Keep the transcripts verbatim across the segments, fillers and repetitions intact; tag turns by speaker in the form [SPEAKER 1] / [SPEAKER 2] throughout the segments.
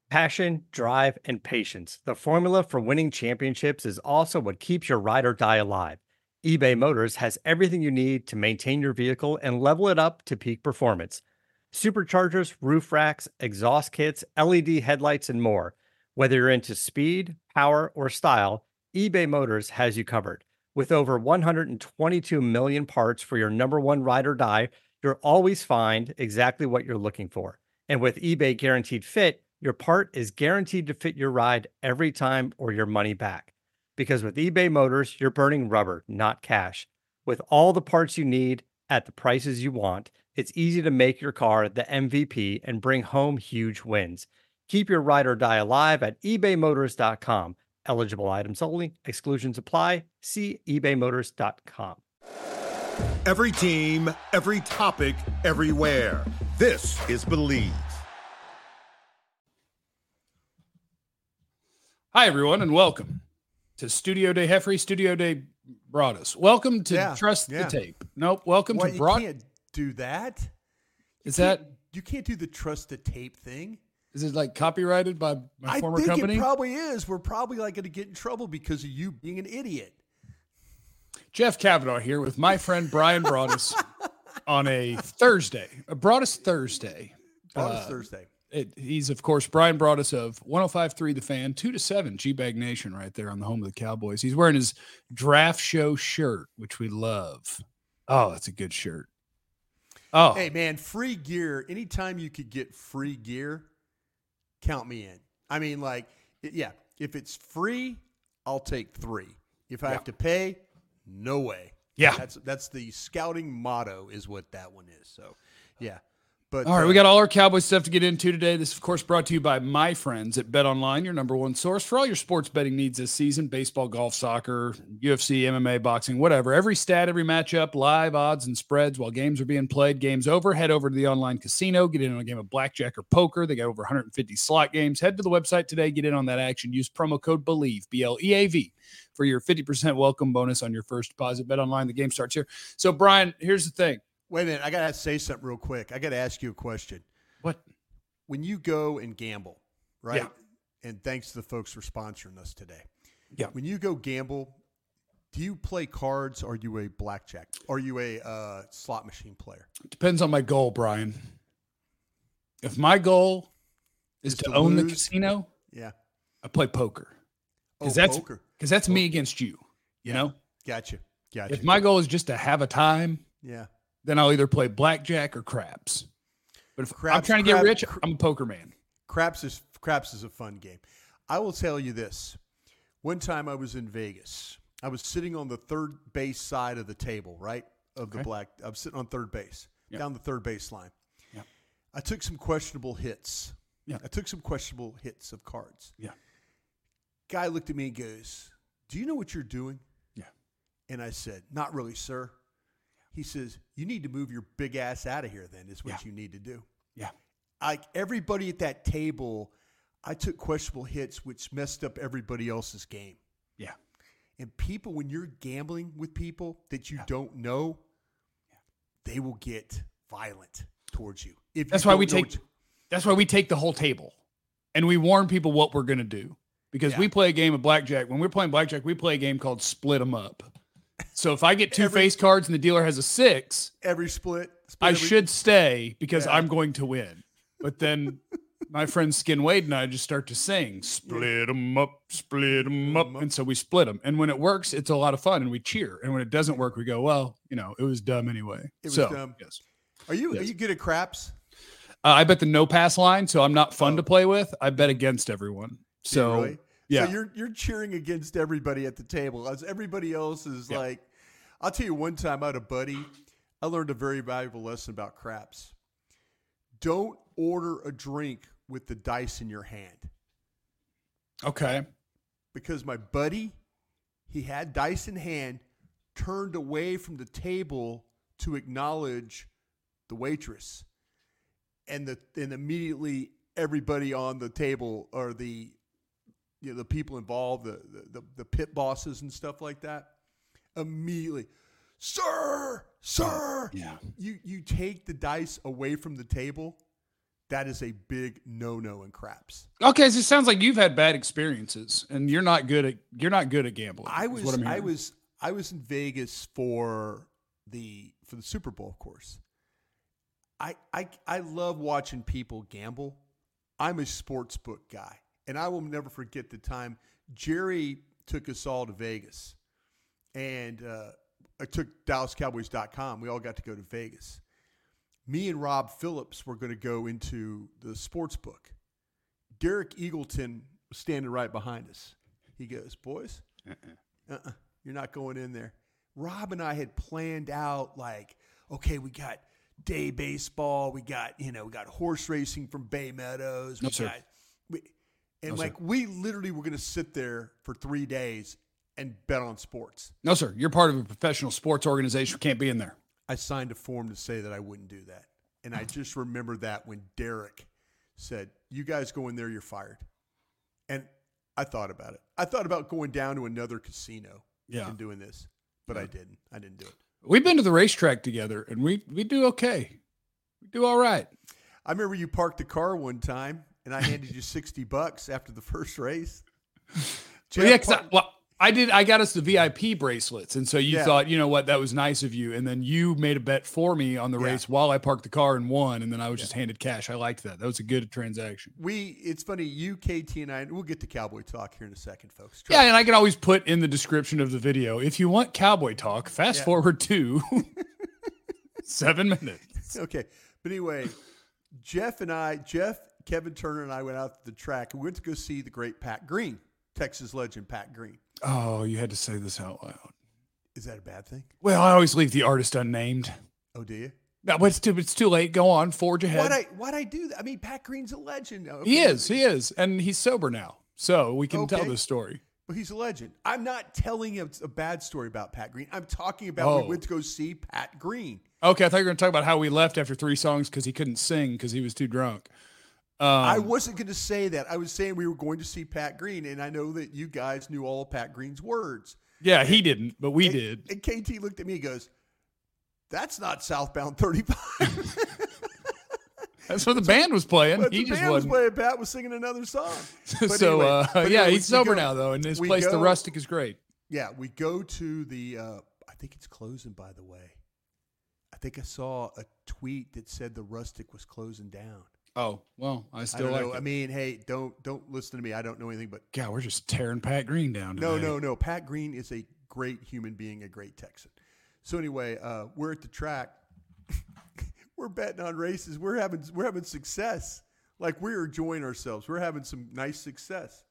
[SPEAKER 1] Passion, drive, and patience. The formula for winning championships is also what keeps your ride or die alive. eBay Motors has everything you need to maintain your vehicle and level it up to peak performance. Superchargers, roof racks, exhaust kits, L E D headlights, and more. Whether you're into speed, power, or style, eBay Motors has you covered. With over one hundred twenty-two million parts for your number one ride or die, you'll always find exactly what you're looking for. And with eBay Guaranteed Fit, your part is guaranteed to fit your ride every time or your money back. Because with eBay Motors, you're burning rubber, not cash. With all the parts you need at the prices you want, it's easy to make your car the M V P and bring home huge wins. Keep your ride or die alive at ebay motors dot com. Eligible items only, exclusions apply. See ebay motors dot com.
[SPEAKER 2] Every team, every topic, everywhere. This is Believe.
[SPEAKER 3] Hi, everyone, and welcome to Studio Day Heffrey, Studio Day Broadus. Welcome to
[SPEAKER 4] Yeah,
[SPEAKER 3] Trust
[SPEAKER 4] yeah.
[SPEAKER 3] the Tape. Nope, welcome
[SPEAKER 4] What,
[SPEAKER 3] to
[SPEAKER 4] you
[SPEAKER 3] Broad.
[SPEAKER 4] can't do that. You
[SPEAKER 3] Is
[SPEAKER 4] can't-
[SPEAKER 3] that
[SPEAKER 4] you can't do the trust the tape thing?
[SPEAKER 3] is it like copyrighted by my
[SPEAKER 4] I
[SPEAKER 3] former
[SPEAKER 4] think
[SPEAKER 3] company?
[SPEAKER 4] it probably is. We're probably like going to get in trouble because of you being an idiot.
[SPEAKER 3] Jeff Kavanaugh here with my friend Brian Broadus on a Thursday, a Broadus Thursday.
[SPEAKER 4] Broadus
[SPEAKER 3] Uh,
[SPEAKER 4] Thursday.
[SPEAKER 3] It, he's, of course, Brian Broadus of one oh five point three The Fan, two to seven, G-Bag Nation right there on the home of the Cowboys. He's wearing his draft show shirt, which we love. Oh, that's a good shirt. Oh,
[SPEAKER 4] Hey, man, free gear. Anytime you could get free gear, count me in. I mean, like, it- yeah, if it's free, I'll take three. If I
[SPEAKER 3] Yeah.
[SPEAKER 4] have to pay, no way.
[SPEAKER 3] Yeah.
[SPEAKER 4] That's that's the scouting motto is what that one is. So, yeah. But
[SPEAKER 3] all right,
[SPEAKER 4] uh,
[SPEAKER 3] we got all our Cowboys stuff to get into today. This, of course, brought to you by my friends at Bet Online, your number one source for all your sports betting needs this season. Baseball, golf, soccer, U F C, M M A, boxing, whatever. Every stat, every matchup, live odds and spreads while games are being played. Game's over. Head over to the online casino. Get in on a game of blackjack or poker. They got over one hundred fifty slot games. Head to the website today. Get in on that action. Use promo code BELIEVE, B L E A V, for your fifty percent welcome bonus on your first deposit. Bet Online, the game starts here. So, Brian, here's the thing.
[SPEAKER 4] wait a minute. I got to say something real quick. I got to ask you a question.
[SPEAKER 3] What?
[SPEAKER 4] When you go and gamble, right?
[SPEAKER 3] Yeah.
[SPEAKER 4] And thanks to the folks for sponsoring us today.
[SPEAKER 3] Yeah.
[SPEAKER 4] When you go gamble, do you play cards or are you a blackjack? Are you a uh, slot machine player?
[SPEAKER 3] Depends on my goal, Brian. If my goal is,
[SPEAKER 4] Is
[SPEAKER 3] to,
[SPEAKER 4] to
[SPEAKER 3] own the
[SPEAKER 4] lose?
[SPEAKER 3] casino,
[SPEAKER 4] Yeah.
[SPEAKER 3] I play poker.
[SPEAKER 4] Oh,
[SPEAKER 3] Because that's
[SPEAKER 4] poker.
[SPEAKER 3] because that's me against you. You know?
[SPEAKER 4] Gotcha. Gotcha.
[SPEAKER 3] If my goal is just to have a time,
[SPEAKER 4] yeah.
[SPEAKER 3] then I'll either play blackjack or craps. But if I'm
[SPEAKER 4] Craps-
[SPEAKER 3] trying to get
[SPEAKER 4] crap-
[SPEAKER 3] rich,
[SPEAKER 4] cr-
[SPEAKER 3] I'm a poker man.
[SPEAKER 4] Craps is craps is a fun game. I will tell you this. One time I was in Vegas. I was sitting on the third base side of the table, right? Of the
[SPEAKER 3] Okay.
[SPEAKER 4] black. I'm sitting on third base,
[SPEAKER 3] Yeah.
[SPEAKER 4] down the third base line.
[SPEAKER 3] Yeah.
[SPEAKER 4] I took some questionable hits.
[SPEAKER 3] Yeah.
[SPEAKER 4] I took some questionable hits of cards.
[SPEAKER 3] Yeah.
[SPEAKER 4] Guy looked at me and goes, "Do you know what you're doing?"
[SPEAKER 3] Yeah.
[SPEAKER 4] And I said, "Not really, sir." He says, "You need to move your big ass out of here then, is what
[SPEAKER 3] Yeah.
[SPEAKER 4] you need to do."
[SPEAKER 3] Yeah.
[SPEAKER 4] Like everybody at that table, I took questionable hits, which messed up everybody else's game.
[SPEAKER 3] Yeah.
[SPEAKER 4] And people, when you're gambling with people that you
[SPEAKER 3] Yeah.
[SPEAKER 4] don't know, they will get violent towards you. If you
[SPEAKER 3] That's why we
[SPEAKER 4] don't know
[SPEAKER 3] take
[SPEAKER 4] what you-
[SPEAKER 3] that's why we take the whole table. And we warn people what we're gonna do. Because
[SPEAKER 4] Yeah.
[SPEAKER 3] we play a game of blackjack. When we're playing blackjack, we play a game called Split 'em Up. So if I get two
[SPEAKER 4] Every-
[SPEAKER 3] face cards and the dealer has a six,
[SPEAKER 4] every split. split
[SPEAKER 3] I
[SPEAKER 4] every-
[SPEAKER 3] should stay because
[SPEAKER 4] Yeah.
[SPEAKER 3] I'm going to win. But then my friend Skin Wade and I just start to sing, split them up, split them up. And so we split them. And when it works, it's a lot of fun and we cheer. And when it doesn't work, we go, well, you know, it was dumb anyway.
[SPEAKER 4] It was
[SPEAKER 3] so,
[SPEAKER 4] dumb.
[SPEAKER 3] Yes.
[SPEAKER 4] Are you
[SPEAKER 3] Yes.
[SPEAKER 4] are you good at craps?
[SPEAKER 3] Uh, I bet the no pass line. So I'm not fun
[SPEAKER 4] Oh.
[SPEAKER 3] to play with. I bet against everyone.
[SPEAKER 4] Do you
[SPEAKER 3] So,
[SPEAKER 4] really?
[SPEAKER 3] yeah.
[SPEAKER 4] So you're you're cheering against everybody at the table as everybody else is
[SPEAKER 3] Yeah.
[SPEAKER 4] like. I'll tell you one time I had a buddy. I learned a very valuable lesson about craps. Don't order a drink with the dice in your hand.
[SPEAKER 3] okay.
[SPEAKER 4] Because my buddy, he had dice in hand, turned away from the table to acknowledge the waitress. And the and immediately everybody on the table or the you know the people involved, the the, the pit bosses and stuff like that, immediately, sir, sir.
[SPEAKER 3] Yeah.
[SPEAKER 4] You you take the dice away from the table, that is a big no-no in craps.
[SPEAKER 3] Okay, so it sounds like you've had bad experiences, and you're not good at you're not good at gambling.
[SPEAKER 4] I was
[SPEAKER 3] what I'm
[SPEAKER 4] I
[SPEAKER 3] hearing.
[SPEAKER 4] was I was in Vegas for the for the Super Bowl, of course. I I I love watching people gamble. I'm a sports book guy, and I will never forget the time Jerry took us all to Vegas, and uh, I took Dallas Cowboys dot com. We all got to go to Vegas. Me and Rob Phillips were going to go into the sports book. Derek Eagleton was standing right behind us. He goes, boys, uh-uh. Uh-uh, you're not going in there. Rob and I had planned out like, okay, we got day baseball. We got, you know, we got horse racing from Bay Meadows. We
[SPEAKER 3] No, sir.
[SPEAKER 4] got, we, and
[SPEAKER 3] No,
[SPEAKER 4] like
[SPEAKER 3] sir.
[SPEAKER 4] we literally were going to sit there for three days and bet on sports.
[SPEAKER 3] No, sir. You're part of a professional sports organization. You can't be in there.
[SPEAKER 4] I signed a form to say that I wouldn't do that. And I just remember that when Derek said, you guys go in there, you're fired. And I thought about it. I thought about going down to another casino
[SPEAKER 3] Yeah.
[SPEAKER 4] and doing this, but I didn't. I didn't do it.
[SPEAKER 3] We've been to the racetrack together, and we we do okay. We do all right.
[SPEAKER 4] I remember you parked the car one time and I handed you sixty bucks after the first race.
[SPEAKER 3] Well, yeah,
[SPEAKER 4] Jeff
[SPEAKER 3] 'cause I,
[SPEAKER 4] parked-
[SPEAKER 3] well, I did. I got us the V I P bracelets, and so you
[SPEAKER 4] Yeah.
[SPEAKER 3] thought, you know what, that was nice of you. And then you made a bet for me on the
[SPEAKER 4] Yeah.
[SPEAKER 3] race while I parked the car and won, and then I was just handed cash. I liked that. That was a good transaction.
[SPEAKER 4] we, it's funny, you, K T, and I, we'll get to Cowboy Talk here in a second, folks. Trust
[SPEAKER 3] Yeah, and I can always put in the description of the video, if you want cowboy talk, fast
[SPEAKER 4] Yeah.
[SPEAKER 3] forward to seven minutes.
[SPEAKER 4] Okay. But anyway, Jeff and I, Jeff, Kevin Turner, and I went out to the track and we went to go see the great Pat Green, Texas legend Pat Green.
[SPEAKER 3] Oh, you had to say this out loud.
[SPEAKER 4] Is that a bad thing?
[SPEAKER 3] Well, I always leave the artist unnamed.
[SPEAKER 4] Oh, do you?
[SPEAKER 3] No, but it's too, it's too late. Go on, forge ahead.
[SPEAKER 4] Why'd I, why'd I do that? I mean, Pat Green's a legend. Okay.
[SPEAKER 3] He is, he is, and he's sober now, so we can tell
[SPEAKER 4] Okay.
[SPEAKER 3] this story.
[SPEAKER 4] But he's a legend. I'm not telling a, a bad story about Pat Green. I'm talking about
[SPEAKER 3] Oh.
[SPEAKER 4] we went to go see Pat Green.
[SPEAKER 3] Okay, I thought you were going to talk about how we left after three songs because he couldn't sing because he was too drunk. Um,
[SPEAKER 4] I wasn't going to say that. I was saying we were going to see Pat Green, and I know that you guys knew all of Pat Green's words.
[SPEAKER 3] yeah, he didn't, but we
[SPEAKER 4] and,
[SPEAKER 3] did.
[SPEAKER 4] And K T looked at me and goes, that's not Southbound thirty-five.
[SPEAKER 3] That's what the band was playing.
[SPEAKER 4] But
[SPEAKER 3] He
[SPEAKER 4] the
[SPEAKER 3] just
[SPEAKER 4] band was
[SPEAKER 3] wasn't.
[SPEAKER 4] playing, Pat was singing another song. But
[SPEAKER 3] so,
[SPEAKER 4] anyway,
[SPEAKER 3] uh,
[SPEAKER 4] but
[SPEAKER 3] yeah,
[SPEAKER 4] anyway,
[SPEAKER 3] he's
[SPEAKER 4] we
[SPEAKER 3] sober
[SPEAKER 4] go-
[SPEAKER 3] now, though, and his
[SPEAKER 4] we
[SPEAKER 3] place, The
[SPEAKER 4] go-
[SPEAKER 3] Rustic, is great.
[SPEAKER 4] Yeah, we go to the, uh, I think it's closing, by the way. I think I saw a tweet that said the Rustic was closing down.
[SPEAKER 3] Oh, well, I
[SPEAKER 4] I
[SPEAKER 3] still
[SPEAKER 4] don't
[SPEAKER 3] like
[SPEAKER 4] know.
[SPEAKER 3] it.
[SPEAKER 4] I mean, hey, don't don't listen to me. I don't know anything, but
[SPEAKER 3] God, we're just tearing Pat Green down today.
[SPEAKER 4] no, no, no. Pat Green is a great human being, a great Texan. So anyway, uh, we're at the track. We're betting on races. We're having we're having success. Like we're enjoying ourselves. We're having some nice success.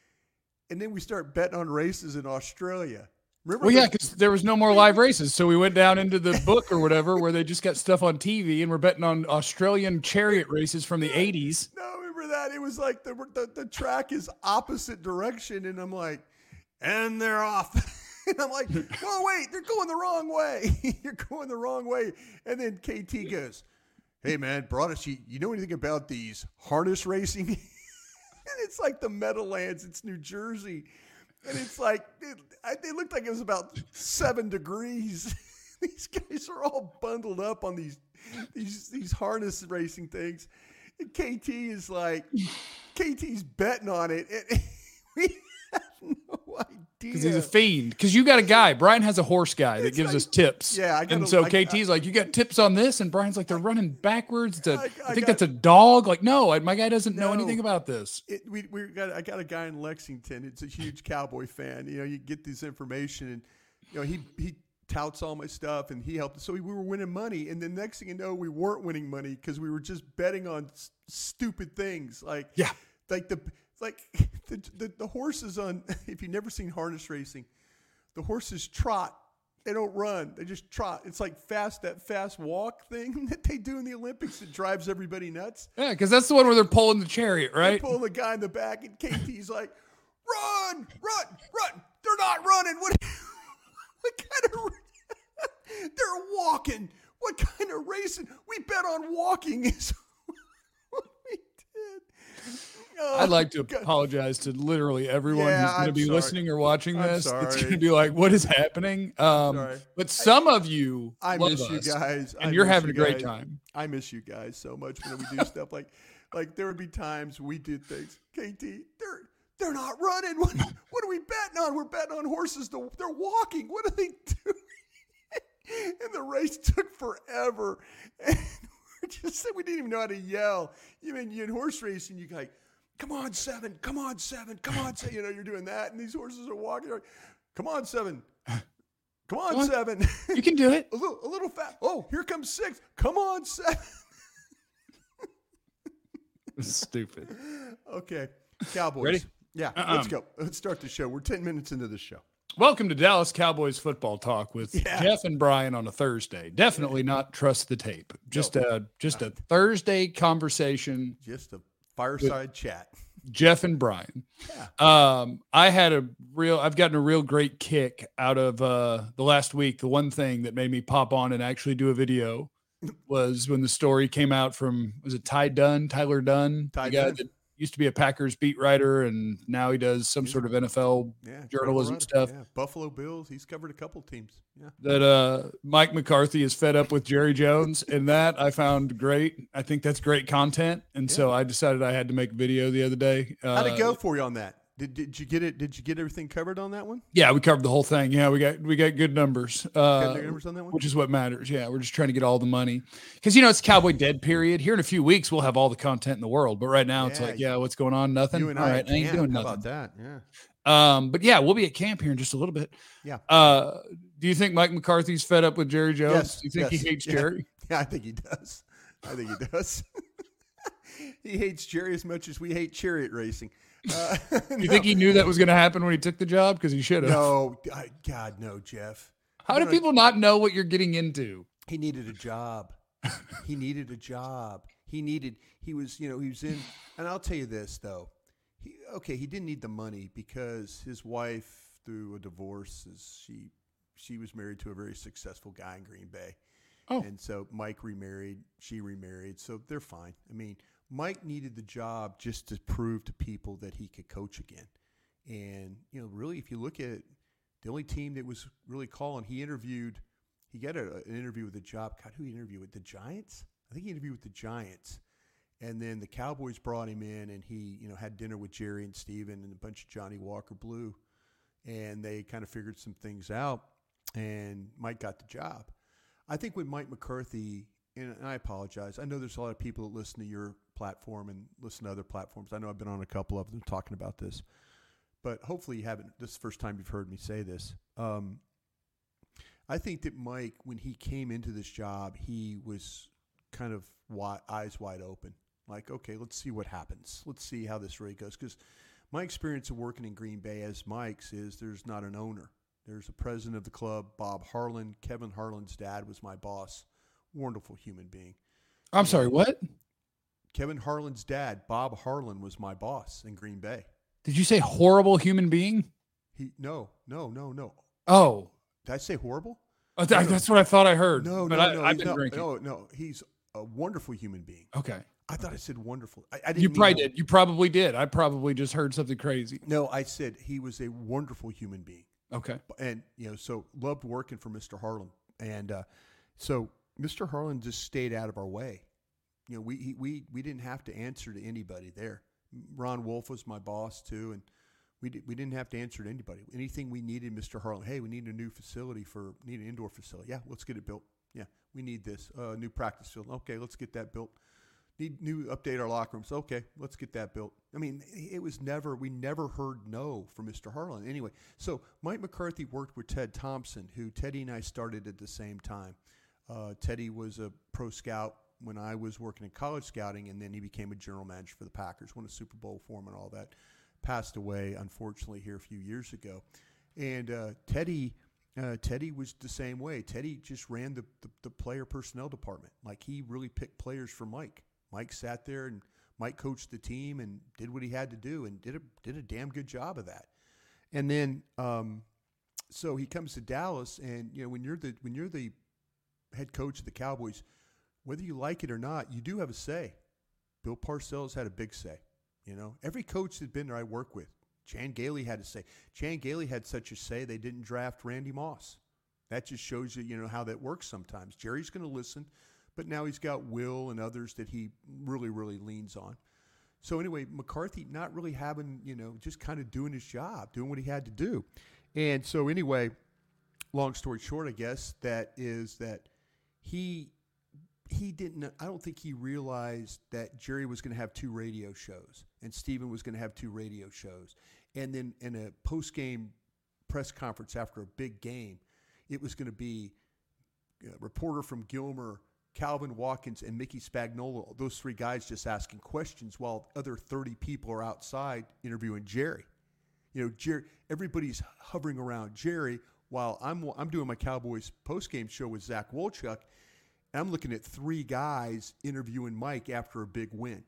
[SPEAKER 4] And then we start betting on races in Australia. Remember?
[SPEAKER 3] Well, yeah,
[SPEAKER 4] those-
[SPEAKER 3] because there was no more live races, so we went down into the book or whatever where they just got stuff on T V, and we're betting on Australian chariot races from the eighties.
[SPEAKER 4] No, remember that? It was like the, the the track is opposite direction, and I'm like, and they're off. And I'm like, whoa, wait, they're going the wrong way. You're going the wrong way. And then K T goes, hey, man, Broadus, you, you know anything about these harness racing? And it's like the Meadowlands. It's New Jersey. And it's like, it, I, it looked like it was about seven degrees. These guys are all bundled up on these these these harness racing things. And K T is like, K T's betting on it. And we have no idea.
[SPEAKER 3] Because he's a fiend. Because you got a guy. Brian has a horse guy that
[SPEAKER 4] It's
[SPEAKER 3] gives
[SPEAKER 4] like-
[SPEAKER 3] us tips.
[SPEAKER 4] Yeah, I gotta-
[SPEAKER 3] And so
[SPEAKER 4] I-
[SPEAKER 3] K T's like, you got tips on this? And Brian's like, they're running backwards. To,
[SPEAKER 4] I-
[SPEAKER 3] I,
[SPEAKER 4] I
[SPEAKER 3] think
[SPEAKER 4] got-
[SPEAKER 3] that's a dog. Like, no, I- my guy doesn't know
[SPEAKER 4] No.
[SPEAKER 3] anything about this.
[SPEAKER 4] It, we we got I got a guy in Lexington. It's a huge Cowboy fan. You know, you get this information, and you know he he touts all my stuff, and he helped. So we, we were winning money, and the next thing you know, we weren't winning money because we were just betting on s- stupid things like
[SPEAKER 3] Yeah.
[SPEAKER 4] like the like the, the the horses on. If you've never seen harness racing, the horses trot. They don't run. They just trot. It's like fast that fast walk thing that they do in the Olympics that drives everybody nuts.
[SPEAKER 3] Yeah, because that's the one where they're pulling the chariot,
[SPEAKER 4] They
[SPEAKER 3] right?
[SPEAKER 4] pull the guy in the back, and K T's like, "Run, run, run! They're not running. What? What kind of? They're walking. What kind of racing? We bet on walking." Is what we did. Oh,
[SPEAKER 3] I'd like to
[SPEAKER 4] God.
[SPEAKER 3] apologize to literally everyone
[SPEAKER 4] Yeah,
[SPEAKER 3] who's going to
[SPEAKER 4] I'm
[SPEAKER 3] be
[SPEAKER 4] sorry.
[SPEAKER 3] listening or watching
[SPEAKER 4] I'm
[SPEAKER 3] this. It's
[SPEAKER 4] sorry.
[SPEAKER 3] going to be like, what is happening? Um,
[SPEAKER 4] sorry.
[SPEAKER 3] but some of you
[SPEAKER 4] I
[SPEAKER 3] love
[SPEAKER 4] miss you
[SPEAKER 3] us,
[SPEAKER 4] guys.
[SPEAKER 3] and
[SPEAKER 4] I
[SPEAKER 3] you're
[SPEAKER 4] miss
[SPEAKER 3] having
[SPEAKER 4] you
[SPEAKER 3] a great
[SPEAKER 4] guys.
[SPEAKER 3] time.
[SPEAKER 4] I miss you guys so much when we do stuff like, like there would be times we did things. K T, they're they're not running. What, what are we betting on? We're betting on horses. To, they're walking. What are they doing? And the race took forever. And we just said we didn't even know how to yell. You mean you in horse racing? You like, come on seven, come on seven, come on seven. You know you're doing that, and these horses are walking. Like, come on seven. Come on,
[SPEAKER 3] Come on.
[SPEAKER 4] seven.
[SPEAKER 3] You can do it.
[SPEAKER 4] a little, a little fast. Oh, here comes six. Come on, seven.
[SPEAKER 3] Stupid.
[SPEAKER 4] Okay, Cowboys.
[SPEAKER 3] Ready?
[SPEAKER 4] Yeah,
[SPEAKER 3] Uh-uh.
[SPEAKER 4] let's go. Let's start the show. We're ten minutes into the show.
[SPEAKER 3] Welcome to Dallas Cowboys football talk with
[SPEAKER 4] Yeah.
[SPEAKER 3] Jeff and Brian on a Thursday. Definitely not trust the tape. Just a just a Thursday conversation.
[SPEAKER 4] Just a fireside chat.
[SPEAKER 3] Jeff and Brian.
[SPEAKER 4] Yeah.
[SPEAKER 3] Um, I had a real, I've gotten a real great kick out of uh, the last week. The one thing that made me pop on and actually do a video was when the story came out from, was it Ty Dunn, Tyler Dunn,
[SPEAKER 4] Ty
[SPEAKER 3] the guy
[SPEAKER 4] Dunn.
[SPEAKER 3] that used to be a Packers beat writer, and now he does some sort of N F L
[SPEAKER 4] Yeah,
[SPEAKER 3] journalism
[SPEAKER 4] Colorado.
[SPEAKER 3] stuff.
[SPEAKER 4] Yeah, Buffalo Bills. He's covered a couple teams. Yeah.
[SPEAKER 3] That uh, Mike McCarthy is fed up with Jerry Jones, and that I found great. I think that's great content, and so I decided I had to make a video the other day. Uh,
[SPEAKER 4] How'd it go for you on that? Did Did you get it? Did you get everything covered on that one?
[SPEAKER 3] Yeah, we covered the whole thing. Yeah, we got we got good numbers, uh,
[SPEAKER 4] Got the numbers on that one?
[SPEAKER 3] which is what matters. Yeah, we're just trying to get all the money because you know it's Cowboy dead period. Here in a few weeks, we'll have all the content in the world, but right now it's
[SPEAKER 4] Yeah,
[SPEAKER 3] like, yeah, what's going on? Nothing.
[SPEAKER 4] You and
[SPEAKER 3] all
[SPEAKER 4] I,
[SPEAKER 3] right, I ain't
[SPEAKER 4] can.
[SPEAKER 3] doing
[SPEAKER 4] How
[SPEAKER 3] nothing.
[SPEAKER 4] about that? Yeah.
[SPEAKER 3] Um, but yeah, we'll be at camp here in just a little bit.
[SPEAKER 4] Yeah.
[SPEAKER 3] Uh, do you think Mike McCarthy's fed up with Jerry Jones?
[SPEAKER 4] Yes,
[SPEAKER 3] Do you think
[SPEAKER 4] yes,
[SPEAKER 3] he hates
[SPEAKER 4] yeah.
[SPEAKER 3] Jerry?
[SPEAKER 4] Yeah, I think he does. I think he does. He hates Jerry as much as we hate chariot racing. Uh,
[SPEAKER 3] You think he knew that was going to happen when he took the job? Because he should have.
[SPEAKER 4] No, I, God, no, Jeff.
[SPEAKER 3] How
[SPEAKER 4] No,
[SPEAKER 3] do
[SPEAKER 4] no,
[SPEAKER 3] people not know what you're getting into?
[SPEAKER 4] He needed a job. He needed a job. He needed, he was, you know, he was in, and I'll tell you this, though. He, okay, he didn't need the money because his wife, through a divorce, is she she was married to a very successful guy in Green Bay.
[SPEAKER 3] Oh.
[SPEAKER 4] And so Mike remarried, she remarried, so they're fine. I mean, Mike needed the job just to prove to people that he could coach again. And, you know, really, if you look at it, the only team that was really calling, he interviewed, he got a, an interview with the job. God, who he interviewed with? The Giants? I think he interviewed with the Giants. And then the Cowboys brought him in, and he, you know, had dinner with Jerry and Steven and a bunch of Johnny Walker Blue. And they kind of figured some things out, and Mike got the job. I think with Mike McCarthy, and I apologize, I know there's a lot of people that listen to your platform and listen to other platforms. I know I've been on a couple of them talking about this. But hopefully you haven't, this is the first time you've heard me say this. Um, I think that Mike, when he came into this job, he was kind of wide, eyes wide open. Like, okay, let's see what happens. Let's see how this really goes. Because my experience of working in Green Bay as Mike's is there's not an owner. There's a president of the club, Bob Harlan. Kevin Harlan's dad was my boss. Wonderful human being.
[SPEAKER 3] I'm sorry, what?
[SPEAKER 4] Kevin Harlan's dad, Bob Harlan, was my boss in Green Bay.
[SPEAKER 3] Did you say horrible human being?
[SPEAKER 4] He no, no, no, no.
[SPEAKER 3] Oh,
[SPEAKER 4] Did I say horrible?
[SPEAKER 3] oh, th- that's what I thought I heard.
[SPEAKER 4] No,
[SPEAKER 3] but
[SPEAKER 4] no,
[SPEAKER 3] I,
[SPEAKER 4] no.
[SPEAKER 3] I've
[SPEAKER 4] he's
[SPEAKER 3] been
[SPEAKER 4] not-
[SPEAKER 3] drinking.
[SPEAKER 4] no, no. He's a wonderful human being.
[SPEAKER 3] Okay.
[SPEAKER 4] I thought I said wonderful. I, I didn't
[SPEAKER 3] You
[SPEAKER 4] mean
[SPEAKER 3] probably
[SPEAKER 4] that.
[SPEAKER 3] did. You probably did. I probably just heard something crazy.
[SPEAKER 4] No, I said he was a wonderful human being.
[SPEAKER 3] Okay.
[SPEAKER 4] And, you know, so loved working for Mister Harlan. And uh, so Mister Harlan just stayed out of our way. You know, we, he, we, we didn't have to answer to anybody there. Ron Wolf was my boss too. And we, did, we didn't have to answer to anybody. Anything we needed, Mister Harlan, hey, we need a new facility for, need an indoor facility. Yeah, let's get it built. Yeah, we need this. Uh, new practice field. Okay, let's get that built. Need new update our locker rooms. Okay, let's get that built. I mean, it was never, we never heard no from Mister Harlan. Anyway, so Mike McCarthy worked with Ted Thompson, who Teddy and I started at the same time. Uh, Teddy was a pro scout when I was working in college scouting, and then he became a general manager for the Packers, won a Super Bowl for him and all that. Passed away, unfortunately, here a few years ago. And uh, Teddy... Uh, Teddy was the same way. Teddy just ran the, the, the player personnel department. Like, he really picked players for Mike. Mike sat there and Mike coached the team and did what he had to do and did a did a damn good job of that. And then, um, so he comes to Dallas, and you know when you're the when you're the head coach of the Cowboys, whether you like it or not, you do have a say. Bill Parcells had a big say. You know, every coach that's been there I work with, Chan Gailey had to say. Chan Gailey had such a say they didn't draft Randy Moss. That just shows you, you know, how that works sometimes. Jerry's going to listen, but now he's got Will and others that he really, really leans on. So anyway, McCarthy not really having, you know, just kind of doing his job, doing what he had to do. And so anyway, long story short, I guess, that is that he he didn't, I don't think he realized that Jerry was going to have two radio shows and Stephen was going to have two radio shows. And then in a post-game press conference after a big game, it was going to be a reporter from Gilmer, Calvin Watkins, and Mickey Spagnola, those three guys just asking questions while other thirty people are outside interviewing Jerry. You know, Jerry, everybody's hovering around Jerry while I'm I'm doing my Cowboys postgame show with Zach Wolchuk, and I'm looking at three guys interviewing Mike after a big win.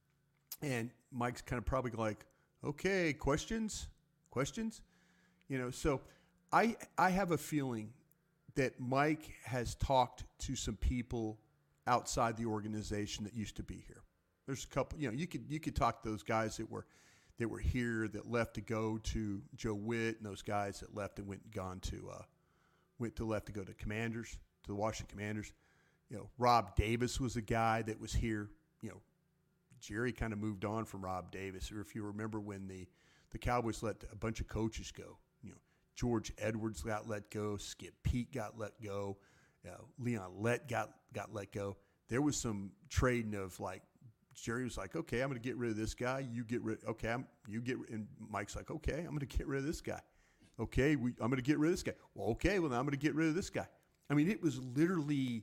[SPEAKER 4] And Mike's kind of probably like, okay, questions? Questions? You know, so I I have a feeling that Mike has talked to some people outside the organization that used to be here. There's a couple, you know, you could you could talk to those guys that were that were here that left to go to Joe Witt, and those guys that left and went and gone to uh, went to left to go to Commanders, to the Washington Commanders. You know, Rob Davis was a guy that was here. You know, Jerry kind of moved on from Rob Davis. Or if you remember when the the Cowboys let a bunch of coaches go, you know, George Edwards got let go, Skip Peete got let go, uh, Leon Lett got got let go. There was some trading of like, Jerry was like, okay, I'm going to get rid of this guy. You get rid. Okay, I'm you get. And Mike's like, okay, I'm going to get rid of this guy. Okay, we, I'm going to get rid of this guy. Well, okay, well now I'm going to get rid of this guy. I mean, it was literally,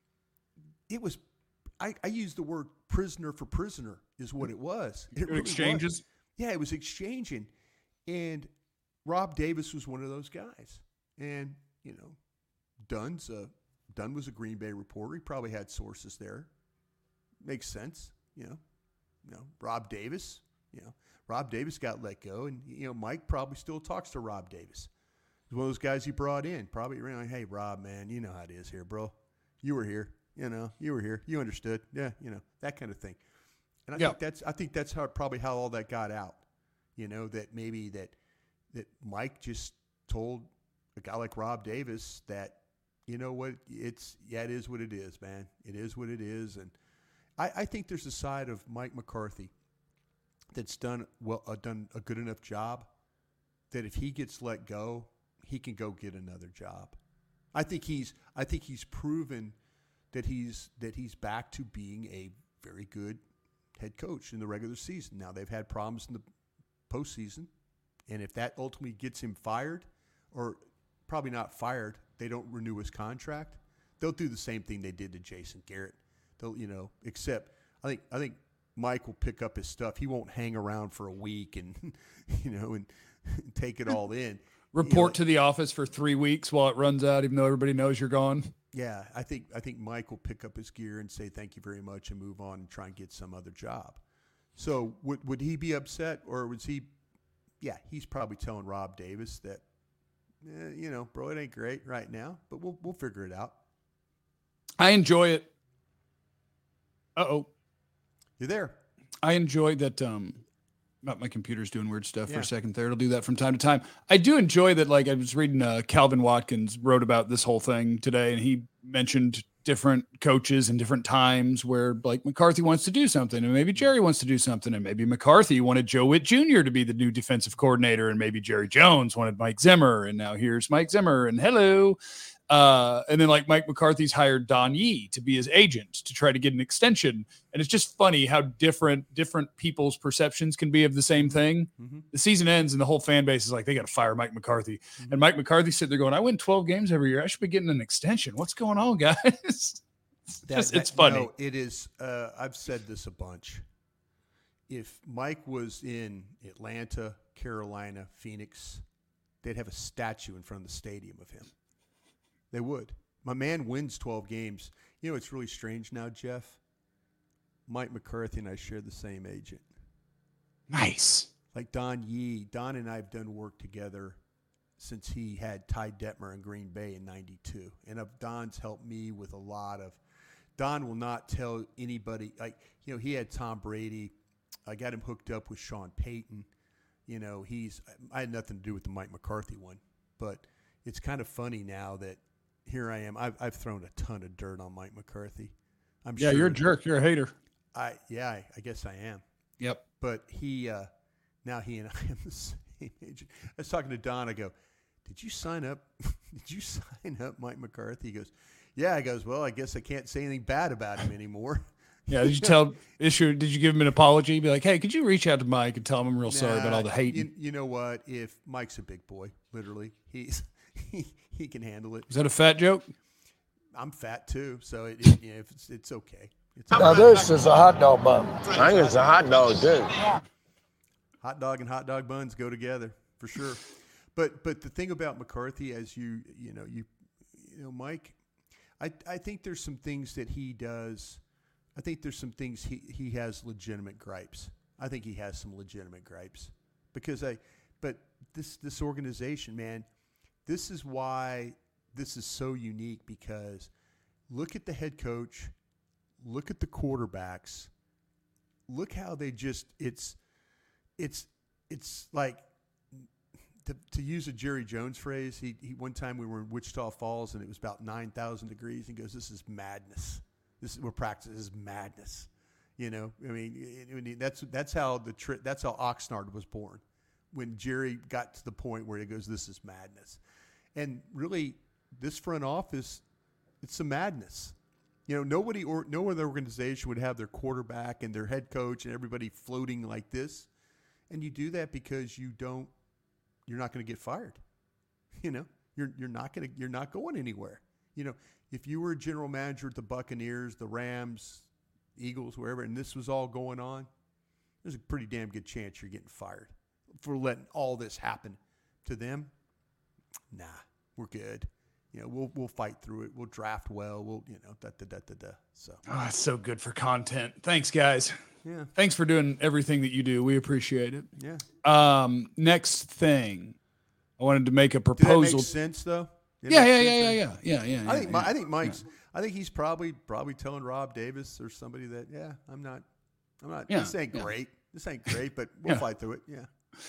[SPEAKER 4] it was. I, I use the word prisoner for prisoner is what it was. It really
[SPEAKER 3] exchanges.
[SPEAKER 4] Was. Yeah, it was exchanging, and Rob Davis was one of those guys. And you know, Dunn's a Dunn was a Green Bay reporter. He probably had sources there. Makes sense. You know, you know, Rob Davis, you know, Rob Davis got let go, and, you know, Mike probably still talks to Rob Davis. He's one of those guys he brought in. Probably, like, hey, Rob, man, you know how it is here, bro. You were here. You know, you were here. You understood. Yeah, you know, that kind of thing. And I
[SPEAKER 3] yeah.
[SPEAKER 4] think that's I think that's how probably how all that got out. You know, that maybe that that Mike just told a guy like Rob Davis that, you know what, it's yeah, it is what it is, man. It is what it is, and I, I think there's a side of Mike McCarthy that's done well, uh, done a good enough job that if he gets let go, he can go get another job. I think he's I think he's proven that he's that he's back to being a very good head coach in the regular season. Now they've had problems in the postseason, and if that ultimately gets him fired, or probably not fired, they don't renew his contract. They'll do the same thing they did to Jason Garrett. They'll, you know, except I think I think Mike will pick up his stuff. He won't hang around for a week and you know and, and take it all in.
[SPEAKER 3] Report
[SPEAKER 4] you know,
[SPEAKER 3] to the office for three weeks while it runs out, even though everybody knows you're gone.
[SPEAKER 4] Yeah, I think I think Mike will pick up his gear and say thank you very much and move on and try and get some other job. So would would he be upset, or was he? Yeah, he's probably telling Rob Davis that, eh, you know, bro, it ain't great right now, but we'll we'll figure it out.
[SPEAKER 3] I enjoy it. Uh-oh.
[SPEAKER 4] You're there.
[SPEAKER 3] I enjoy that. Um, my computer's doing weird stuff
[SPEAKER 4] yeah.
[SPEAKER 3] for a second there. It'll do that from time to time. I do enjoy that. Like I was reading, uh, Calvin Watkins wrote about this whole thing today, and he mentioned different coaches and different times where like McCarthy wants to do something, and maybe Jerry wants to do something, and maybe McCarthy wanted Joe Witt Junior to be the new defensive coordinator, and maybe Jerry Jones wanted Mike Zimmer, and now here's Mike Zimmer, and hello. Uh, and then like Mike McCarthy's hired Don Yee to be his agent to try to get an extension. And it's just funny how different, different people's perceptions can be of the same thing. Mm-hmm. The season ends and the whole fan base is like, they got to fire Mike McCarthy. Mm-hmm. And Mike McCarthy's sitting there going, I win twelve games every year. I should be getting an extension. What's going on, guys? It's,
[SPEAKER 4] that,
[SPEAKER 3] just,
[SPEAKER 4] that,
[SPEAKER 3] it's funny.
[SPEAKER 4] No, it is. Uh, I've said this a bunch. If Mike was in Atlanta, Carolina, Phoenix, they'd have a statue in front of the stadium of him. They would. My man wins twelve games. You know, it's really strange now, Jeff. Mike McCarthy and I share the same agent.
[SPEAKER 3] Nice.
[SPEAKER 4] Like Don Yee. Don and I have done work together since he had Ty Detmer in Green Bay in ninety-two. And of Don's helped me with a lot of – Don will not tell anybody – like, you know, he had Tom Brady I got him hooked up with Sean Payton. You know, he's I had nothing to do with the Mike McCarthy one, but it's kind of funny now that here I am. I've I've thrown a ton of dirt on Mike McCarthy. I'm
[SPEAKER 3] Yeah,
[SPEAKER 4] sure
[SPEAKER 3] you're a jerk. You're a hater.
[SPEAKER 4] I yeah, I, I guess I am.
[SPEAKER 3] Yep.
[SPEAKER 4] But he uh, now he and I am the same age. I was talking to Don. I go, "Did you sign up? Did you sign up Mike McCarthy?" He goes, "Yeah." I goes, "Well, I guess I can't say anything bad about him anymore."
[SPEAKER 3] Yeah. Did you tell issue? Did you give him an apology? Be like, hey, could you reach out to Mike and tell him I'm real sorry about all the hate?
[SPEAKER 4] You, you know what? If Mike's a big boy, literally, he's he, he can handle it.
[SPEAKER 3] Is that a fat joke?
[SPEAKER 4] I'm fat too, so it, it, you know, it's it's okay. It's
[SPEAKER 5] Now
[SPEAKER 4] okay.
[SPEAKER 5] this is a hot dog bun.
[SPEAKER 6] I think it's a hot dog, too.
[SPEAKER 4] Hot dog and hot dog buns go together for sure. But but the thing about McCarthy, as you you know you you know Mike, I I think there's some things that he does. I think there's some things he, he has legitimate gripes. I think he has some legitimate gripes because I. But this this organization, man, this is why this is so unique because look at the head coach, look at the quarterbacks, look how they just it's it's it's like. To, to use a Jerry Jones phrase, he, he one time we were in Wichita Falls and it was about nine thousand degrees. He goes, "This is madness. This is, we're practicing. This is madness." You know, I mean, it, it, that's that's how the tri- that's how Oxnard was born. When Jerry got to the point where he goes, "This is madness," and really, this front office, it's a madness. You know, nobody or no other organization would have their quarterback and their head coach and everybody floating like this, and you do that because you don't. You're not going to get fired. You know, you're you're not going to you're not going anywhere. You know, if you were a general manager at the Buccaneers, the Rams, Eagles, wherever, and this was all going on, there's a pretty damn good chance you're getting fired for letting all this happen to them. Nah, we're good. You know, we'll we'll fight through it. We'll draft well. We'll you know da da da da da. So
[SPEAKER 3] Oh, that's so good for content. Thanks, guys.
[SPEAKER 4] yeah,
[SPEAKER 3] Thanks for doing everything that you do. We appreciate it.
[SPEAKER 4] yeah.
[SPEAKER 3] Um, next thing, I wanted to make a
[SPEAKER 4] Did that
[SPEAKER 3] proposal.
[SPEAKER 4] make sense though? Did
[SPEAKER 3] Yeah,
[SPEAKER 4] that
[SPEAKER 3] yeah,
[SPEAKER 4] make
[SPEAKER 3] yeah,
[SPEAKER 4] sense?
[SPEAKER 3] yeah, yeah, yeah, yeah.
[SPEAKER 4] I think
[SPEAKER 3] yeah,
[SPEAKER 4] Mi- I think Mike's. I think he's probably probably telling Rob Davis or somebody that yeah, I'm not, I'm not.
[SPEAKER 3] Yeah,
[SPEAKER 4] this ain't
[SPEAKER 3] yeah.
[SPEAKER 4] great. This ain't great, but we'll
[SPEAKER 3] Yeah.
[SPEAKER 4] fight through it. Yeah.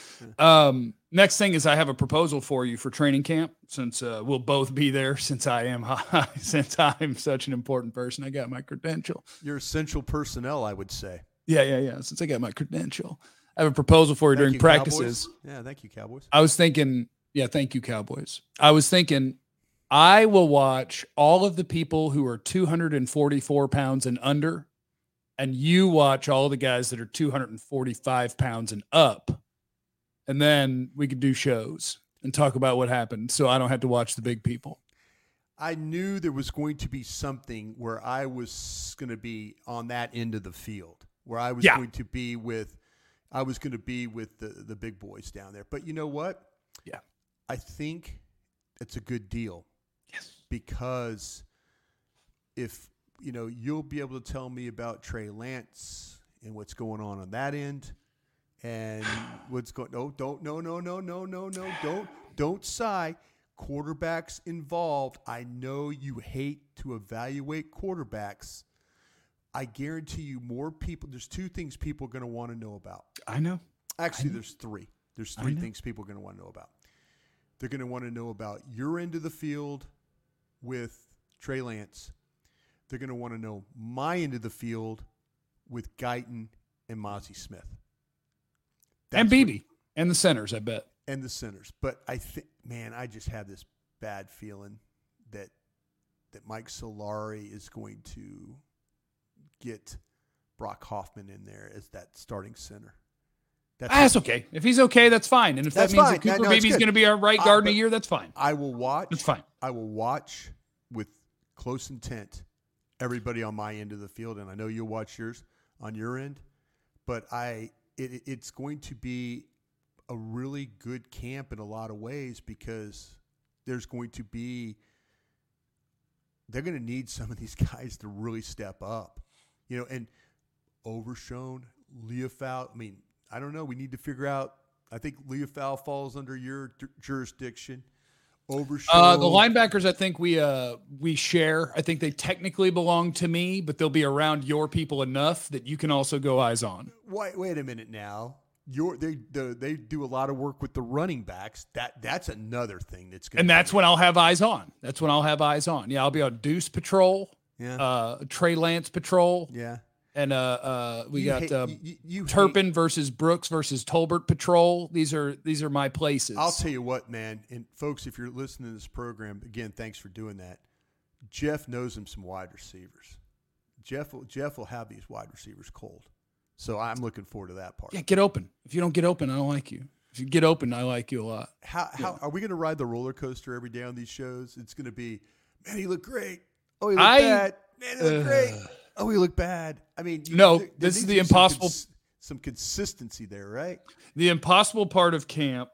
[SPEAKER 3] Um, next thing is I have a proposal for you for training camp since uh, we'll both be there since I am since I'm such an important person. I got my credential.
[SPEAKER 4] You're essential personnel, I would say.
[SPEAKER 3] Yeah, yeah, yeah. Since I got my credential, I have a proposal for you
[SPEAKER 4] Thank
[SPEAKER 3] during
[SPEAKER 4] you,
[SPEAKER 3] practices.
[SPEAKER 4] Cowboys. Yeah, thank you, Cowboys.
[SPEAKER 3] I was thinking, yeah, thank you, Cowboys. I was thinking I will watch all of the people who are two hundred forty-four pounds and under, and you watch all the guys that are two hundred forty-five pounds and up. And then we could do shows and talk about what happened so I don't have to watch the big people.
[SPEAKER 4] I knew there was going to be something where I was going to be on that end of the field, where I was
[SPEAKER 3] Yeah.
[SPEAKER 4] going to be with, I was going to be with the, the big boys down there. But you know what?
[SPEAKER 3] Yeah.
[SPEAKER 4] I think it's a good deal.
[SPEAKER 3] Yes.
[SPEAKER 4] Because if, you know, you'll be able to tell me about Trey Lance and what's going on on that end and what's going, no, don't, no, no, no, no, no, no, don't, don't sigh. Quarterbacks involved. I know you hate to evaluate quarterbacks. I guarantee you more people, there's two things people are going to want to know about.
[SPEAKER 3] I know.
[SPEAKER 4] Actually,
[SPEAKER 3] I know.
[SPEAKER 4] there's three. There's
[SPEAKER 3] I
[SPEAKER 4] three
[SPEAKER 3] know.
[SPEAKER 4] things people are going to want to know about. They're going to want to know about your end of the field with Trey Lance. They're going to want to know my end of the field with Guyton and Mozzie Smith.
[SPEAKER 3] And
[SPEAKER 4] That's
[SPEAKER 3] B
[SPEAKER 4] what-
[SPEAKER 3] B and the centers, I bet.
[SPEAKER 4] and the centers. But I think, man, I just have this bad feeling that that Mike Solari is going to get Brock Hoffman in there as that starting center. That's
[SPEAKER 3] Ah, that's okay. If he's okay, that's fine. And if
[SPEAKER 4] That's
[SPEAKER 3] that means
[SPEAKER 4] fine.
[SPEAKER 3] that Cooper
[SPEAKER 4] No, no, it's
[SPEAKER 3] Beebe's
[SPEAKER 4] good.
[SPEAKER 3] going to be our right
[SPEAKER 4] Uh,
[SPEAKER 3] guard in a
[SPEAKER 4] but-
[SPEAKER 3] year, that's fine.
[SPEAKER 4] I will watch.
[SPEAKER 3] That's fine.
[SPEAKER 4] I will watch with close intent everybody on my end of the field, and I know you'll watch yours on your end. But I, it, it's going to be a really good camp in a lot of ways because there's going to be. They're going to need some of these guys to really step up, you know. And Overshown, Leofau. I mean, I don't know. We need to figure out. I think Leofau falls under your d- jurisdiction. Overshow.
[SPEAKER 3] Uh, the linebackers, I think we uh, we share. I think they technically belong to me, but they'll be around your people enough that you can also go eyes on.
[SPEAKER 4] Wait, wait a minute now. You're, they the, they do a lot of work with the running backs. That that's another thing that's going.
[SPEAKER 3] And that's when I'll have eyes on. That's when I'll have eyes on. Yeah, I'll be on Deuce Patrol.
[SPEAKER 4] Yeah.
[SPEAKER 3] Uh, Trey Lance Patrol.
[SPEAKER 4] Yeah.
[SPEAKER 3] And uh, uh, we
[SPEAKER 4] You
[SPEAKER 3] got
[SPEAKER 4] hate-
[SPEAKER 3] uh,
[SPEAKER 4] you- you
[SPEAKER 3] Turpin
[SPEAKER 4] hate-
[SPEAKER 3] versus Brooks versus Tolbert Patrol. These are these are my places.
[SPEAKER 4] I'll tell you what, man. And folks, if you're listening to this program, again, thanks for doing that. Jeff knows him some wide receivers. Jeff will Jeff will have these wide receivers cold. So I'm looking forward to that part.
[SPEAKER 3] Yeah, get open. If you don't get open, I don't like you. If you get open, I like you a lot.
[SPEAKER 4] How how are we going to ride the roller coaster every day on these shows? It's going to be, man, he looked great. Oh, he looked
[SPEAKER 3] I-
[SPEAKER 4] bad. Man, he looked
[SPEAKER 3] uh,
[SPEAKER 4] great. Oh, he looked bad. I mean, you,
[SPEAKER 3] No,
[SPEAKER 4] there- there
[SPEAKER 3] this is
[SPEAKER 4] needs
[SPEAKER 3] the
[SPEAKER 4] to be some
[SPEAKER 3] impossible-
[SPEAKER 4] cons- Some consistency there, right?
[SPEAKER 3] The impossible part of camp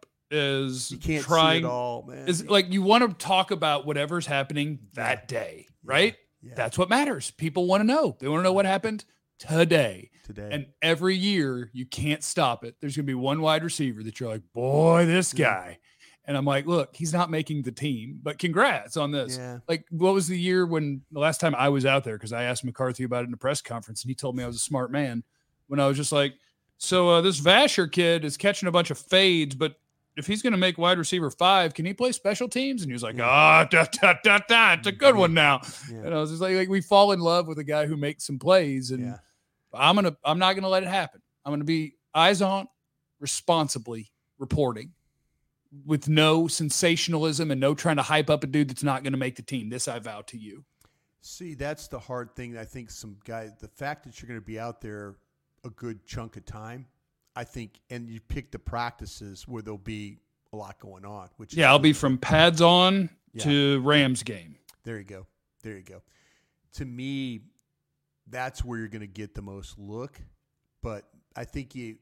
[SPEAKER 3] is
[SPEAKER 4] You can't
[SPEAKER 3] trying
[SPEAKER 4] see it all, man.
[SPEAKER 3] is like you want to talk about whatever's happening that day, right?
[SPEAKER 4] Yeah.
[SPEAKER 3] That's what matters. People want to know. They want to know what happened today.
[SPEAKER 4] Today.
[SPEAKER 3] And every year you can't stop it. There's going to be one wide receiver that you're like, boy, this guy. And I'm like, look, he's not making the team, but congrats on this.
[SPEAKER 4] Yeah.
[SPEAKER 3] Like, what was the year when the last time I was out there? Because I asked McCarthy about it in a press conference, and he told me I was a smart man. When I was just like, so uh, this Vasher kid is catching a bunch of fades, but if he's going to make wide receiver five, can he play special teams? And he was like, ah, da, da, da, da, it's a good one now.
[SPEAKER 4] Yeah.
[SPEAKER 3] And I was just like, like, we fall in love with a guy who makes some plays, and
[SPEAKER 4] Yeah.
[SPEAKER 3] I'm gonna, I'm not gonna let it happen. I'm gonna be eyes on, responsibly reporting, with no sensationalism and no trying to hype up a dude that's not going to make the team. This I vow to you.
[SPEAKER 4] See, that's the hard thing. I think some guys, the fact that you're going to be out there a good chunk of time, I think, and you pick the practices where there'll be a lot going on. Which
[SPEAKER 3] Yeah,
[SPEAKER 4] is,
[SPEAKER 3] I'll be from pads on
[SPEAKER 4] Yeah.
[SPEAKER 3] to Rams game.
[SPEAKER 4] There you go. There you go. To me, that's where you're going to get the most look. But I think you,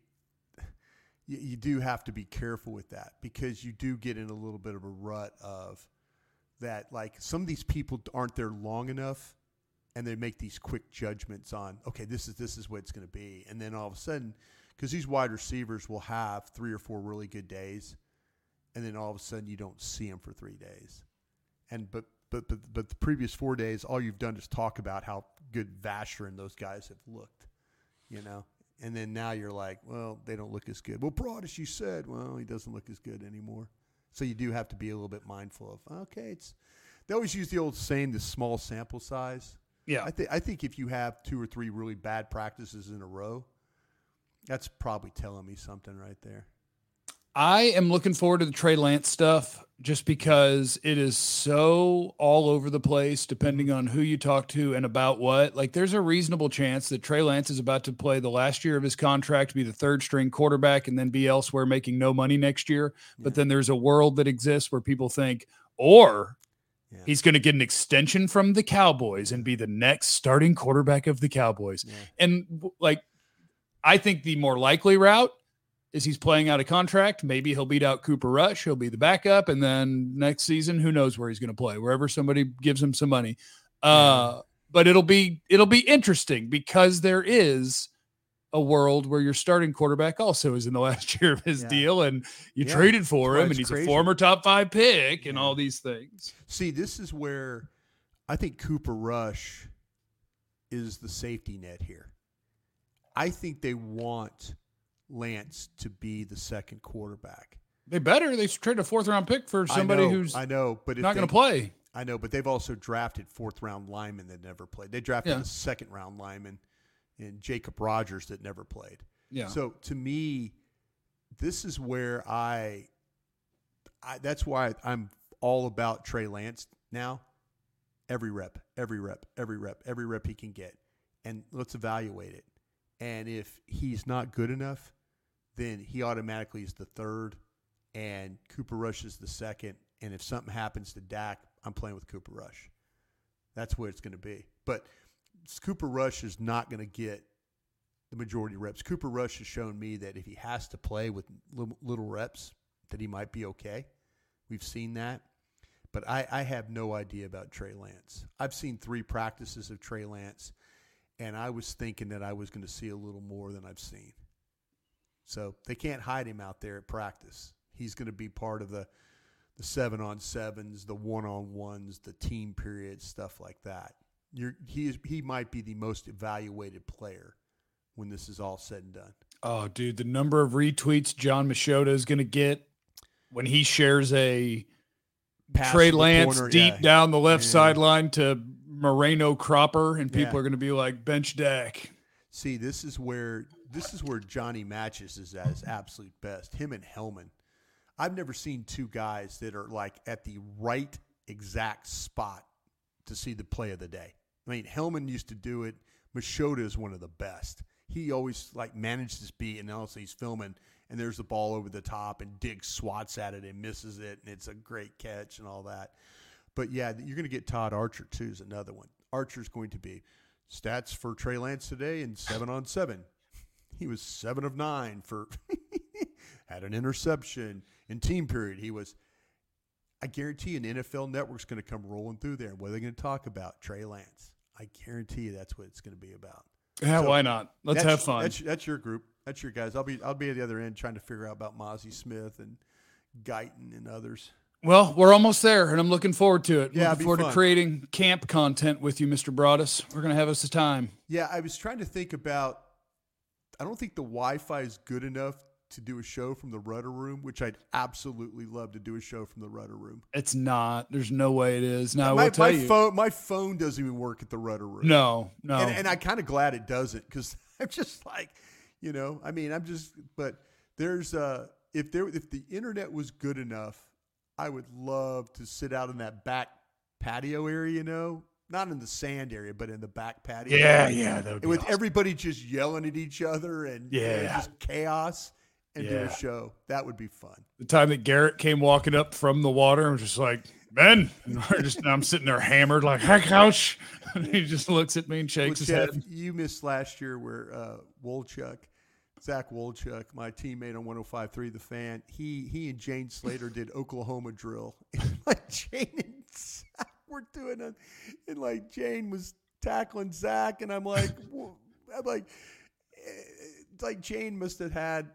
[SPEAKER 4] you you do have to be careful with that because you do get in a little bit of a rut of that. Like some of these people aren't there long enough, and they make these quick judgments on, okay, this is this is what it's going to be, and then all of a sudden, because these wide receivers will have three or four really good days, and then all of a sudden you don't see them for three days, and but. But, but but the previous four days, all you've done is talk about how good Vasher and those guys have looked, you know. And then now you're like, well, they don't look as good. Well, Broadus, you said, well, he doesn't look as good anymore. So you do have to be a little bit mindful of, okay, it's. They always use the old saying, the small sample size.
[SPEAKER 3] Yeah.
[SPEAKER 4] I think I think if you have two or three really bad practices in a row, that's probably telling me something right there.
[SPEAKER 3] I am looking forward to the Trey Lance stuff just because it is so all over the place depending on who you talk to and about what. Like there's a reasonable chance that Trey Lance is about to play the last year of his contract, be the third string quarterback, and then be elsewhere making no money next year.
[SPEAKER 4] Yeah.
[SPEAKER 3] But then there's a world that exists where people think, or
[SPEAKER 4] Yeah.
[SPEAKER 3] he's going to get an extension from the Cowboys and be the next starting quarterback of the Cowboys.
[SPEAKER 4] Yeah.
[SPEAKER 3] And like, I think the more likely route is he's playing out a contract. Maybe he'll beat out Cooper Rush. He'll be the backup. And then next season, who knows where he's going to play, wherever somebody gives him some money. Uh, but it'll be, it'll be interesting because there is a world where your starting quarterback also is in the last year of his
[SPEAKER 4] Yeah.
[SPEAKER 3] deal and you
[SPEAKER 4] Yeah.
[SPEAKER 3] traded for
[SPEAKER 4] That's why
[SPEAKER 3] him and
[SPEAKER 4] it's
[SPEAKER 3] he's
[SPEAKER 4] crazy.
[SPEAKER 3] a former top five pick and
[SPEAKER 4] Yeah.
[SPEAKER 3] all these things.
[SPEAKER 4] See, this is where I think Cooper Rush is the safety net here. I think they want Lance to be the second quarterback.
[SPEAKER 3] They better. They traded a fourth round pick for somebody
[SPEAKER 4] I know,
[SPEAKER 3] who's
[SPEAKER 4] I know, but if
[SPEAKER 3] not
[SPEAKER 4] they-
[SPEAKER 3] going to play.
[SPEAKER 4] I know, but they've also drafted fourth round linemen that never played. They drafted
[SPEAKER 3] Yeah.
[SPEAKER 4] a second round lineman in Jacob Rogers that never played.
[SPEAKER 3] Yeah.
[SPEAKER 4] So to me, this is where I, I that's why I'm all about Trey Lance now. Every rep, every rep, every rep, every rep he can get, and let's evaluate it. And if he's not good enough, then he automatically is the third, and Cooper Rush is the second. And if something happens to Dak, I'm playing with Cooper Rush. That's where it's going to be. But Cooper Rush is not going to get the majority of reps. Cooper Rush has shown me that if he has to play with little reps, that he might be okay. We've seen that. But I, I have no idea about Trey Lance. I've seen three practices of Trey Lance, and I was thinking that I was going to see a little more than I've seen. So they can't hide him out there at practice. He's going to be part of the the seven on sevens, the one on ones, the team periods, stuff like that. You're, he is he might be the most evaluated player when this is all said and done.
[SPEAKER 3] Oh, dude, the number of retweets John Machota is going to get when he shares a
[SPEAKER 4] Pass
[SPEAKER 3] Trey
[SPEAKER 4] to the
[SPEAKER 3] Lance
[SPEAKER 4] corner,
[SPEAKER 3] deep
[SPEAKER 4] yeah.
[SPEAKER 3] down the left
[SPEAKER 4] Yeah.
[SPEAKER 3] sideline to Moreno Cropper, and people
[SPEAKER 4] Yeah.
[SPEAKER 3] are going to be like, bench Dak.
[SPEAKER 4] See, this is where this is where Johnny Matches is at his absolute best. Him and Hellman. I've never seen two guys that are like at the right exact spot to see the play of the day. I mean, Hellman used to do it. Machota is one of the best. He always like managed his beat, and also he's filming, and there's the ball over the top, and Diggs swats at it and misses it, and it's a great catch and all that. But yeah, you're going to get Todd Archer too is another one. Archer's going to be stats for Trey Lance today in seven on seven. He was seven of nine for had an interception in team period. He was. I guarantee an N F L Network's going to come rolling through there. What are they going to talk about? Trey Lance. I guarantee you that's what it's going to be about.
[SPEAKER 3] Yeah,
[SPEAKER 4] So,
[SPEAKER 3] why not? Let's
[SPEAKER 4] That's-
[SPEAKER 3] have fun.
[SPEAKER 4] That's, that's your group. That's your guys. I'll be I'll be at the other end trying to figure out about Mozzie Smith and Guyton and others.
[SPEAKER 3] Well, we're almost there, and I'm looking forward to it.
[SPEAKER 4] Yeah, it'd
[SPEAKER 3] looking
[SPEAKER 4] be
[SPEAKER 3] forward to
[SPEAKER 4] fun.
[SPEAKER 3] creating camp content with you, Mister Broadus. We're going to have us a time.
[SPEAKER 4] Yeah, I was trying to think about. I don't think the Wi-Fi is good enough to do a show from the Rudder Room, which I'd absolutely love to do a show from the Rudder Room.
[SPEAKER 3] It's not. There's no way it is. Now, I
[SPEAKER 4] my
[SPEAKER 3] will tell
[SPEAKER 4] my
[SPEAKER 3] you.
[SPEAKER 4] phone my phone doesn't even work at the Rudder Room.
[SPEAKER 3] No, no.
[SPEAKER 4] And, and I'm kind of glad it doesn't because I'm just like, you know, I mean, I'm just, but there's, uh, if there, if the internet was good enough, I would love to sit out in that back patio area, you know, not in the sand area, but in the back patio.
[SPEAKER 3] yeah,
[SPEAKER 4] area.
[SPEAKER 3] yeah. That would be
[SPEAKER 4] With
[SPEAKER 3] awesome.
[SPEAKER 4] everybody just yelling at each other and you know,
[SPEAKER 3] Yeah.
[SPEAKER 4] just chaos and do
[SPEAKER 3] Yeah.
[SPEAKER 4] a show. That would be fun.
[SPEAKER 3] The time that Garrett came walking up from the water and was just like, Ben, and we're just, I'm sitting there hammered like, hi, coach. And he just looks at me and
[SPEAKER 4] Well,
[SPEAKER 3] shakes his
[SPEAKER 4] Jeff,
[SPEAKER 3] head.
[SPEAKER 4] you missed last year where uh, Wolchuk, Zach Wolchuk, my teammate on one oh five point three The Fan, he he and Jane Slater did Oklahoma drill. And like Jane and Zach were doing it, and like Jane was tackling Zach, and I'm like, wha- I'm like, eh, like Jane must have had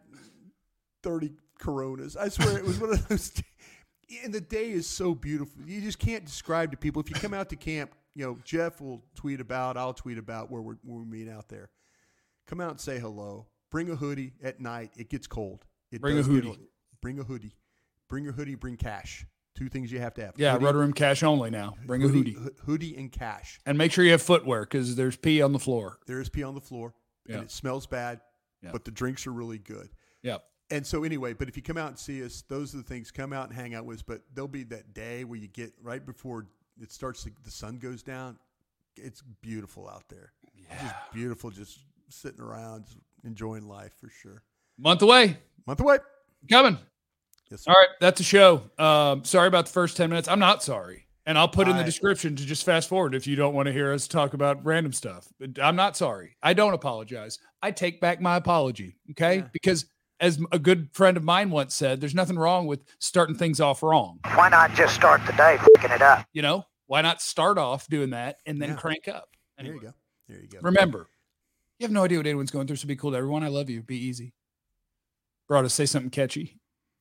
[SPEAKER 4] thirty Coronas. I swear it was one of those. And the day is so beautiful. You just can't describe to people. If you come out to camp, you know, Jeff will tweet about, I'll tweet about where we're, where we meet out there. Come out and say hello. Bring a hoodie at night. It gets cold. It
[SPEAKER 3] Bring a
[SPEAKER 4] does get-
[SPEAKER 3] hoodie.
[SPEAKER 4] Bring a hoodie. Bring your hoodie. Bring cash. Two things you have to have.
[SPEAKER 3] Yeah,
[SPEAKER 4] Hoodie-
[SPEAKER 3] Rudder Room cash only now. Bring a hoodie.
[SPEAKER 4] ho- Hoodie and cash.
[SPEAKER 3] And make sure you have footwear because there's pee on the floor.
[SPEAKER 4] There is pee on the floor,
[SPEAKER 3] Yeah.
[SPEAKER 4] and it smells bad,
[SPEAKER 3] Yeah.
[SPEAKER 4] but the drinks are really good.
[SPEAKER 3] Yep.
[SPEAKER 4] And so anyway, but if you come out and see us, those are the things. Come out and hang out with us. But there'll be that day where you get right before it starts, to, the sun goes down. It's beautiful out there. It's just beautiful, just sitting around, just enjoying life for sure.
[SPEAKER 3] Month away.
[SPEAKER 4] Month away.
[SPEAKER 3] Coming.
[SPEAKER 4] Yes, sir.
[SPEAKER 3] All right. That's a show. Um, sorry about the first ten minutes. I'm not sorry. And I'll put in the
[SPEAKER 4] I-
[SPEAKER 3] description to just fast forward if you don't want to hear us talk about random stuff. But I'm not sorry. I don't apologize. I take back my apology. Okay.
[SPEAKER 4] Yeah.
[SPEAKER 3] Because as a good friend of mine once said, there's nothing wrong with starting things off wrong.
[SPEAKER 5] Why not just start the day fucking it up?
[SPEAKER 3] You know, why not start off doing that and then
[SPEAKER 4] Yeah.
[SPEAKER 3] crank up?
[SPEAKER 4] There
[SPEAKER 3] Anyway,
[SPEAKER 4] you go. There you go.
[SPEAKER 3] remember, you have no idea what anyone's going through, so be cool to everyone. I love you. Be easy. Brought us say something catchy.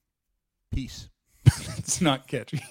[SPEAKER 4] Peace.
[SPEAKER 3] It's not catchy.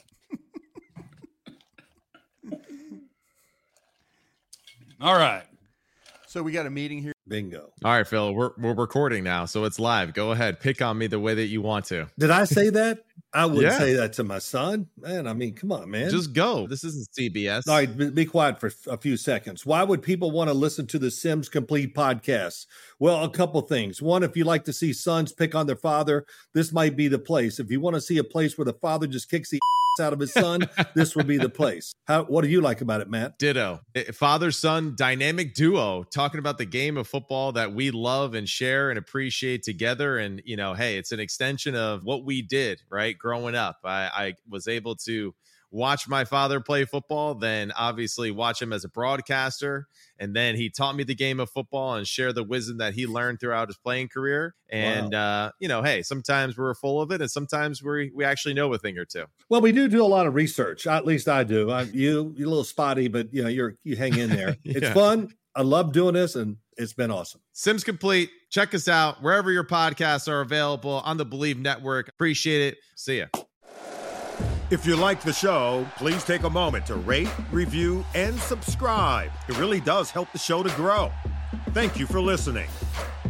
[SPEAKER 3] All right.
[SPEAKER 4] So we got a meeting here.
[SPEAKER 7] Bingo.
[SPEAKER 8] All right, Phil, we're we're recording now, so it's live. Go ahead, pick on me the way that you want to.
[SPEAKER 7] Did I say that? I wouldn't
[SPEAKER 8] Yeah.
[SPEAKER 7] say that to my son. Man, I mean, come on, man.
[SPEAKER 8] Just go. This isn't C B S.
[SPEAKER 7] All right, be, be quiet for a few seconds. Why would people want to listen to the Sims Complete podcast? Well, a couple things. One, if you like to see sons pick on their father, this might be the place. If you want to see a place where the father just kicks the out of his son, this would be the place. How? What do you like about it, Matt?
[SPEAKER 8] Ditto. Father son dynamic duo talking about the game of football that we love and share and appreciate together. And, you know, hey, it's an extension of what we did, right? Growing up, I, I was able to watch my father play football, then obviously watch him as a broadcaster. And then he taught me the game of football and share the wisdom that he learned throughout his playing career. And, wow. uh, you know, hey, sometimes we're full of it and sometimes we we actually know a thing or two.
[SPEAKER 7] Well, we do do a lot of research. At least I do. I, you, you're a little spotty, but, you know, you're you hang in there.
[SPEAKER 8] Yeah.
[SPEAKER 7] It's fun. I love doing this, and it's been awesome.
[SPEAKER 8] Sims Complete. Check us out wherever your podcasts are available on the Believe Network. Appreciate it. See ya.
[SPEAKER 2] If you like the show, please take a moment to rate, review, and subscribe. It really does help the show to grow. Thank you for listening.